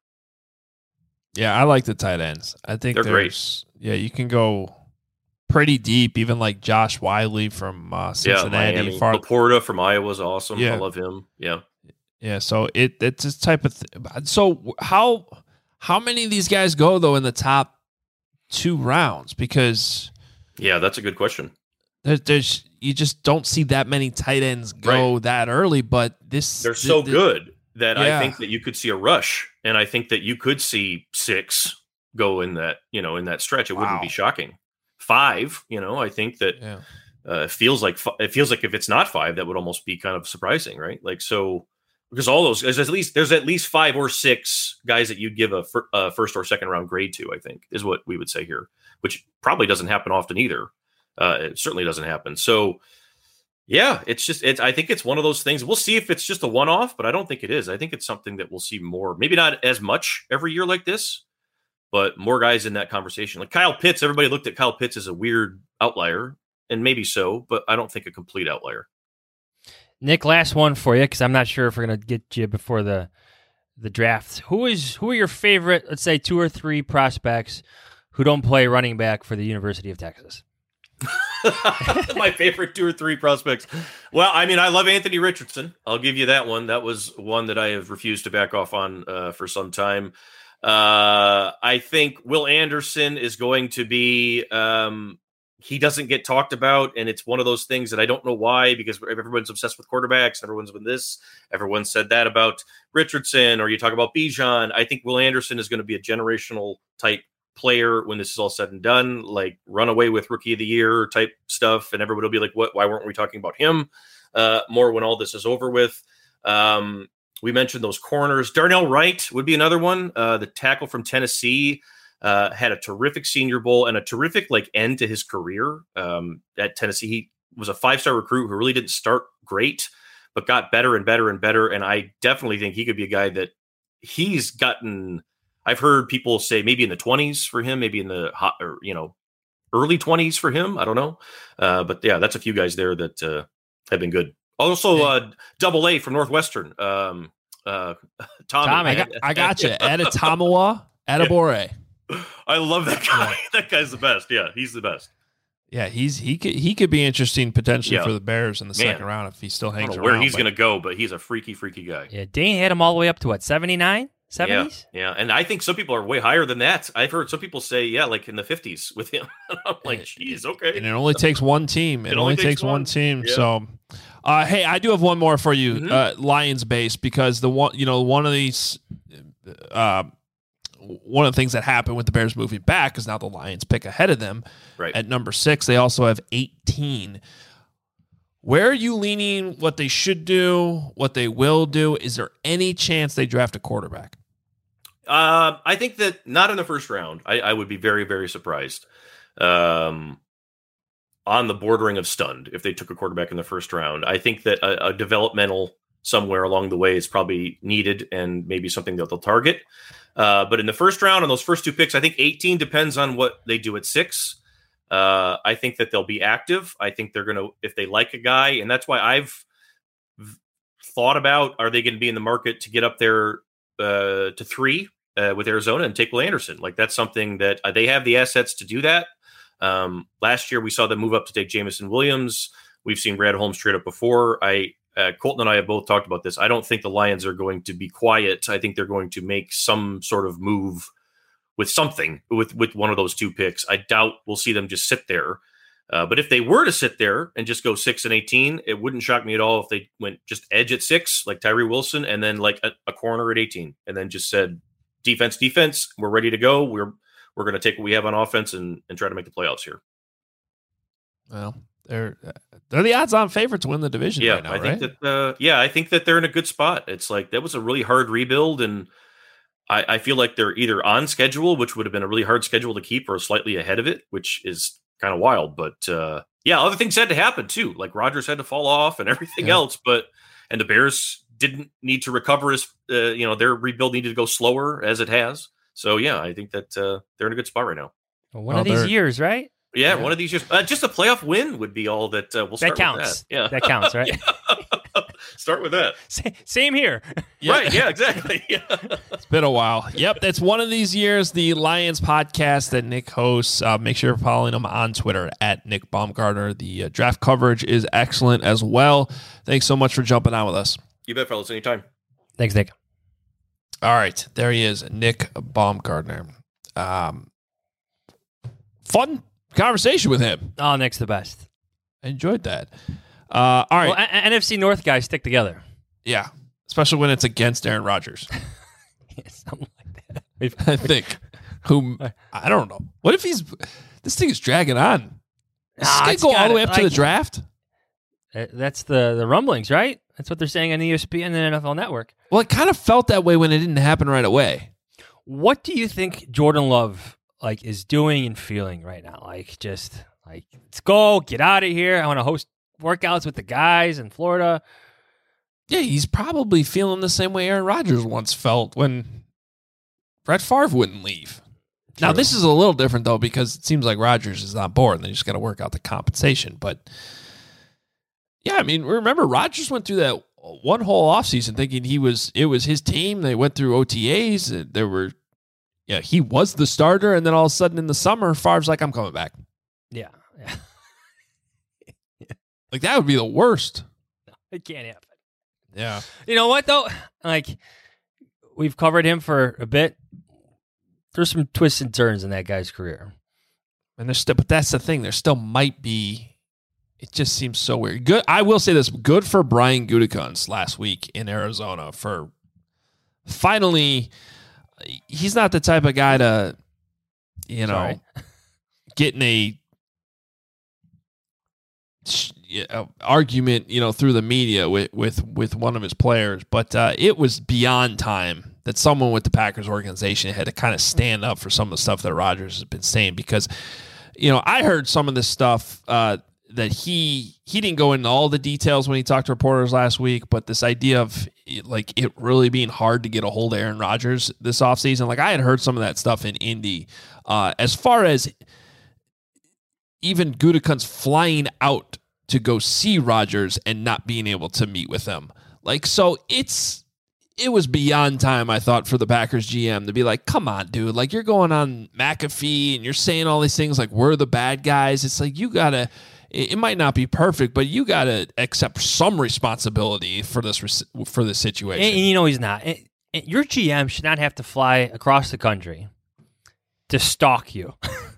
Yeah, I like the tight ends. I think they're great. Yeah, you can go pretty deep, even like Josh Wiley from uh, Cincinnati. Yeah, Miami. Far- Laporta from Iowa is awesome. Yeah. I love him. Yeah, yeah. So it it's this type of. Th- so how how many of these guys go though in the top two rounds? Because yeah, that's a good question. There's, there's you just don't see that many tight ends go right. that early. But this they're so th- good that yeah. I think that you could see a rush, and I think that you could see six go in that you know in that stretch. It wow. wouldn't be shocking. Five, you know, I think that yeah. uh, feels like it feels like if it's not five, that would almost be kind of surprising, right? Like so, because all those there's at least there's at least five or six guys that you'd give a, fir- a first or second round grade to. I think is what we would say here, which probably doesn't happen often either. Uh, it certainly doesn't happen. So, yeah, it's just it's. I think it's one of those things. We'll see if it's just a one off, but I don't think it is. I think it's something that we'll see more. Maybe not as much every year like this. But more guys in that conversation. Like Kyle Pitts, everybody looked at Kyle Pitts as a weird outlier, and maybe so, but I don't think a complete outlier. Nick, last one for you, because I'm not sure if we're going to get you before the the draft. Who is who are your favorite, let's say, two or three prospects who don't play running back for the University of Texas? My favorite two or three prospects. Well, I mean, I love Anthony Richardson. I'll give you that one. That was one that I have refused to back off on uh, for some time. Uh, I think Will Anderson is going to be, um, he doesn't get talked about. And it's one of those things that I don't know why, because everyone's obsessed with quarterbacks. Everyone's with this. Everyone said that about Richardson, or you talk about Bijan. I think Will Anderson is going to be a generational type player when this is all said and done, like runaway with rookie of the year type stuff. And everybody will be like, what, why weren't we talking about him uh, more when all this is over with? Um, We mentioned those corners. Darnell Wright would be another one. Uh, the tackle from Tennessee uh, had a terrific Senior Bowl and a terrific like end to his career um, at Tennessee. He was a five-star recruit who really didn't start great, but got better and better and better. And I definitely think he could be a guy that he's gotten. I've heard people say maybe in the twenties for him, maybe in the hot or you know early twenties for him. I don't know, uh, but yeah, that's a few guys there that uh, have been good. Also, uh, double A from Northwestern. Um, uh, Tommy. Tommy. I got, I got you. Adetomawa Adebore. I love that guy. That guy's the best. Yeah, he's the best. Yeah, he's he could he could be interesting potentially Yeah. for the Bears in the Man. second round if he still I hangs don't know around. where he's but- going to go, but he's a freaky, freaky guy. Yeah, Dane had him all the way up to what, seventy-nine? Yeah, seventies? yeah, and I think some people are way higher than that. I've heard some people say, yeah, like in the fifties with him. I'm like, geez, okay. And it only takes one team. It, It only only takes, takes one, one. team. Yeah. So, uh, hey, I do have one more for you, Mhm. uh, Lions based, because the one, you know, one of these, uh, one of the things that happened with the Bears moving back is now the Lions pick ahead of them Right. at number six. They also have eighteen. Where are you leaning? What they should do? What they will do? Is there any chance they draft a quarterback? Uh, I think that not in the first round. I, I would be very, very surprised. Um, on the bordering of stunned if they took a quarterback in the first round. I think that a, a developmental somewhere along the way is probably needed and maybe something that they'll target. Uh, but in the first round, on those first two picks, I think eighteen depends on what they do at six. Uh, I think that they'll be active. I think they're going to, if they like a guy, and that's why I've v- thought about, are they going to be in the market to get up there uh, to three uh, with Arizona and take Will Anderson? Like that's something that uh, they have the assets to do that. Um, last year we saw them move up to take Jameson Williams. We've seen Brad Holmes trade up before. I, uh, Colton and I have both talked about this. I don't think the Lions are going to be quiet. I think they're going to make some sort of move with something with, with one of those two picks. I doubt we'll see them just sit there. Uh, but if they were to sit there and just go six and eighteen, it wouldn't shock me at all if they went just edge at six, like Tyree Wilson, and then like a, a corner at eighteen, and then just said, defense, defense, we're ready to go. We're, we're going to take what we have on offense and, and try to make the playoffs here. Well, they're they're the odds-on favorite to win the division Yeah, right now, I think right? that. Uh, yeah, I think that they're in a good spot. It's like that was a really hard rebuild, and I, I feel like they're either on schedule, which would have been a really hard schedule to keep, or slightly ahead of it, which is kind of wild. But uh, yeah, other things had to happen too. Like Rodgers had to fall off and everything Yeah. else. But and the Bears didn't need to recover as uh, you know their rebuild needed to go slower as it has. So yeah, I think that uh, they're in a good spot right now. Well, one Oh, of these they're- years, right? Yeah, Yeah. one of these years, uh, just a playoff win would be all that uh, we'll start That counts. with that. Yeah, That counts, right? start with that. Sa- Same here. Right? Yeah, exactly. Yeah. It's been a while. Yep, that's one of these years. The Lions podcast that Nick hosts. Uh, make sure you're following him on Twitter at Nick Baumgartner. The uh, draft coverage is excellent as well. Thanks so much for jumping on with us. You bet, fellas. Anytime. Thanks, Nick. All right, there he is, Nick Baumgartner. Um, fun conversation with him. Oh, Nick's the best. I enjoyed that. Uh, all right, Well, a- N F C North guys stick together. yeah, especially when it's against Aaron Rodgers. Something like that. We've- I think. Whom I don't know. What if he's this thing is dragging on? Is Nah, this it's gonna go all the gotta- way up to the like- draft? Uh, That's the, the rumblings, right? That's what they're saying on E S P N and the N F L Network. Well, it kind of felt that way when it didn't happen right away. What do you think Jordan Love like is doing and feeling right now? Like just like let's go, get out of here. I want to host workouts with the guys in Florida. Yeah, he's probably feeling the same way Aaron Rodgers once felt when Brett Favre wouldn't leave. Now, True. this is a little different, though, because it seems like Rodgers is on board and they just got to work out the compensation. But, yeah, I mean, remember, Rodgers went through that one whole offseason thinking he was it was his team. They went through O T As. There were, yeah, he was the starter. And then all of a sudden in the summer, Favre's like, I'm coming back. Yeah. yeah. Like, that would be the worst. It can't happen. Yeah. You know what, though? Like, we've covered him for a bit. There's some twists and turns in that guy's career. And there's still, but that's the thing. There still might be. It just seems so weird. Good. I will say this. Good for Brian Gutekunst last week in Arizona for finally. He's not the type of guy to, you know, Sorry. get in a uh, argument, you know, through the media with with with one of his players. But uh, it was beyond time that someone with the Packers organization had to kind of stand up for some of the stuff that Rodgers has been saying, because, you know, I heard some of this stuff uh, that he he didn't go into all the details when he talked to reporters last week, but this idea of like it really being hard to get a hold of Aaron Rodgers this offseason, like I had heard some of that stuff in Indy. Uh, as far as even Gutekunst flying out to go see Rodgers and not being able to meet with him. Like, so it's, it was beyond time, I thought, for the Packers G M to be like, come on, dude. Like, you're going on McAfee and you're saying all these things like we're the bad guys. It's like, you got to, it might not be perfect, but you got to accept some responsibility for this, for this situation. And, and you know he's not. And, and your G M should not have to fly across the country to stalk you.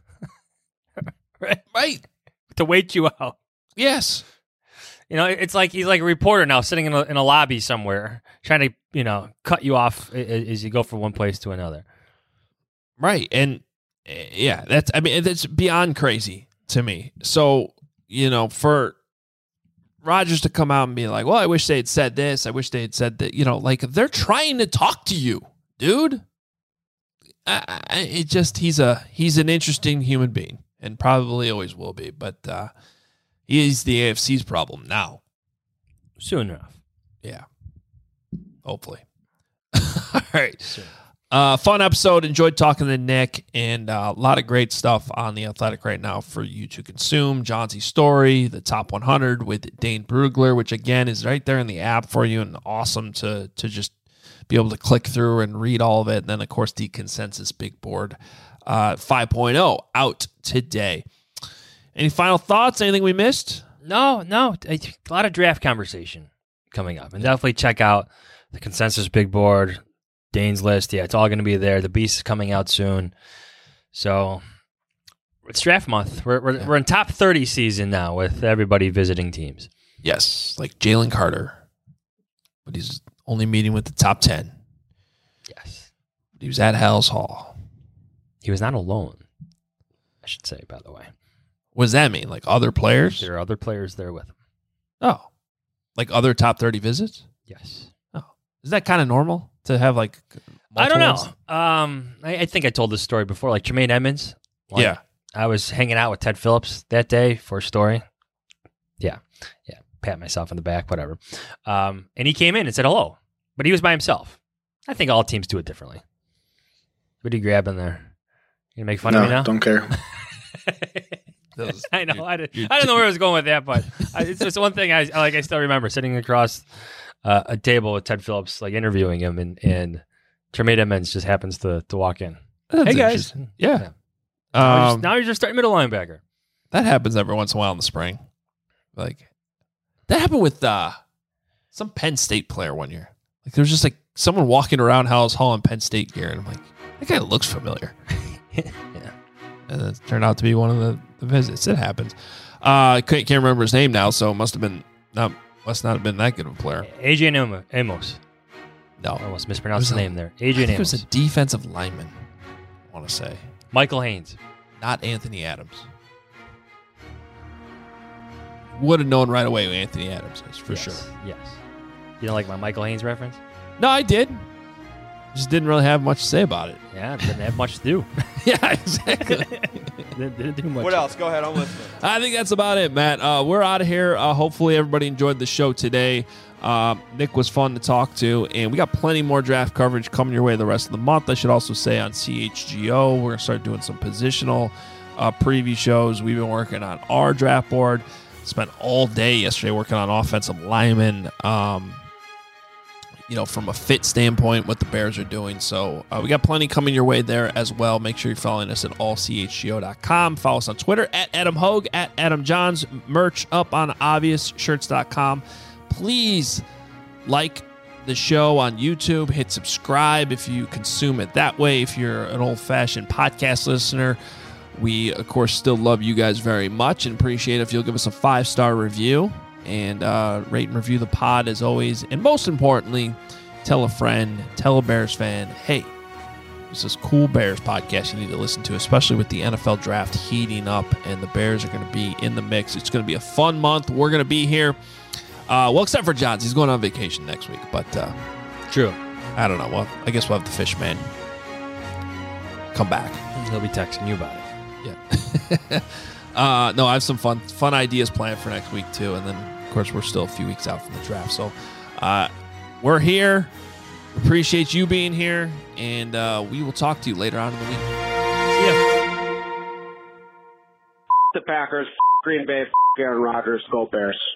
right? Right. To wait you out. Yes. You know, it's like he's like a reporter now sitting in a, in a lobby somewhere trying to, you know, cut you off as you go from one place to another. Right. And uh, yeah, that's, I mean, that's beyond crazy to me. So, you know, for Rodgers to come out and be like, well, I wish they had said this. I wish they had said that, you know, like they're trying to talk to you, dude. I, I, it just, he's a, he's an interesting human being and probably always will be, but uh, he's the A F C's problem now. Soon enough. Yeah. Hopefully. All right. Uh, fun episode. Enjoyed talking to Nick, and uh, a lot of great stuff on The Athletic right now for you to consume. Johnson's story, the top one hundred with Dane Brugler, which again is right there in the app for you, and awesome to to just be able to click through and read all of it. And then, of course, the consensus big board uh, five point oh out today. Any final thoughts? Anything we missed? No, no. A lot of draft conversation coming up. And definitely check out the consensus big board, Dane's list. Yeah, it's all going to be there. The Beast is coming out soon. So it's draft month. We're we're, yeah. we're in top thirty season now with everybody visiting teams. Yes, like Jalen Carter. But he's only meeting with the top ten. Yes. But he was at Hal's Hall. He was not alone, I should say, by the way. What does that mean? Like other players? There are other players there with him. Oh. Like other top thirty visits? Yes. Oh. Is that kind of normal to have like I don't know. ones? Um, I, I think I told this story before. Like Jermaine Edmonds. Like, yeah. I was hanging out with Ted Phillips that day for a story. Yeah. Yeah. Pat myself on the back, whatever. Um, and he came in and said hello. But he was by himself. I think all teams do it differently. What are you grabbing there? You gonna make fun no, of me now? Don't care. Those, I know. I didn't, I didn't know where I was going with that, but I, it's just one thing I like. I still remember sitting across uh, a table with Ted Phillips, like interviewing him, and and Jermaine Edmonds just happens to to walk in. That's hey guys, yeah. yeah. Now, Um, you're just, now you're just starting middle linebacker. That happens every once in a while in the spring. Like that happened with uh, some Penn State player one year. Like there was just like someone walking around Hal's Hall in Penn State gear, and I'm like, that guy looks familiar. yeah. And it turned out to be one of the, the visits. It happens. Uh, I can't, can't remember his name now, so it must have been not must not have been that good of a player. Adrian Amos. No, I almost mispronounced the name there. Adrian I think Amos. it was a defensive lineman. I want to say Michael Haynes. not Anthony Adams. Would have known right away who Anthony Adams is for yes. sure. Yes. You don't like my Michael Haynes reference? No, I did. Just didn't really have much to say about it. Yeah, didn't have much to do. Yeah, exactly. didn't, didn't do much. What else? Go ahead. I'm listening. I think that's about it, Matt. Uh, we're out of here. Uh, hopefully everybody enjoyed the show today. Uh, Nick was fun to talk to, and we got plenty more draft coverage coming your way the rest of the month. I should also say on C H G O, we're going to start doing some positional uh, preview shows. We've been working on our draft board. Spent all day yesterday working on offensive linemen. Um, you know, from a fit standpoint, what the Bears are doing. So uh, we got plenty coming your way there as well. Make sure you're following us at all c h g o dot com. Follow us on Twitter at Adam Hogue, at Adam Johns. Merch up on obvious shirts dot com. Please like the show on YouTube. Hit subscribe if you consume it that way. If you're an old-fashioned podcast listener, we, of course, still love you guys very much and appreciate it if you'll give us a five-star review and uh, rate and review the pod as always. And most importantly, tell a friend, tell a Bears fan, hey, this is cool Bears podcast you need to listen to, especially with the N F L draft heating up and the Bears are going to be in the mix. It's going to be a fun month. We're going to be here. Uh, well, except for Johns. He's going on vacation next week. But uh, True. I don't know. Well, I guess we'll have the fish man come back. He'll be texting you about it. Yeah. uh, no, I have some fun fun ideas planned for next week, too. And then, of course, we're still a few weeks out from the draft. So uh, we're here. Appreciate you being here. And uh, we will talk to you later on in the week. See ya. The Packers, Green Bay, Aaron Rodgers, go Bears.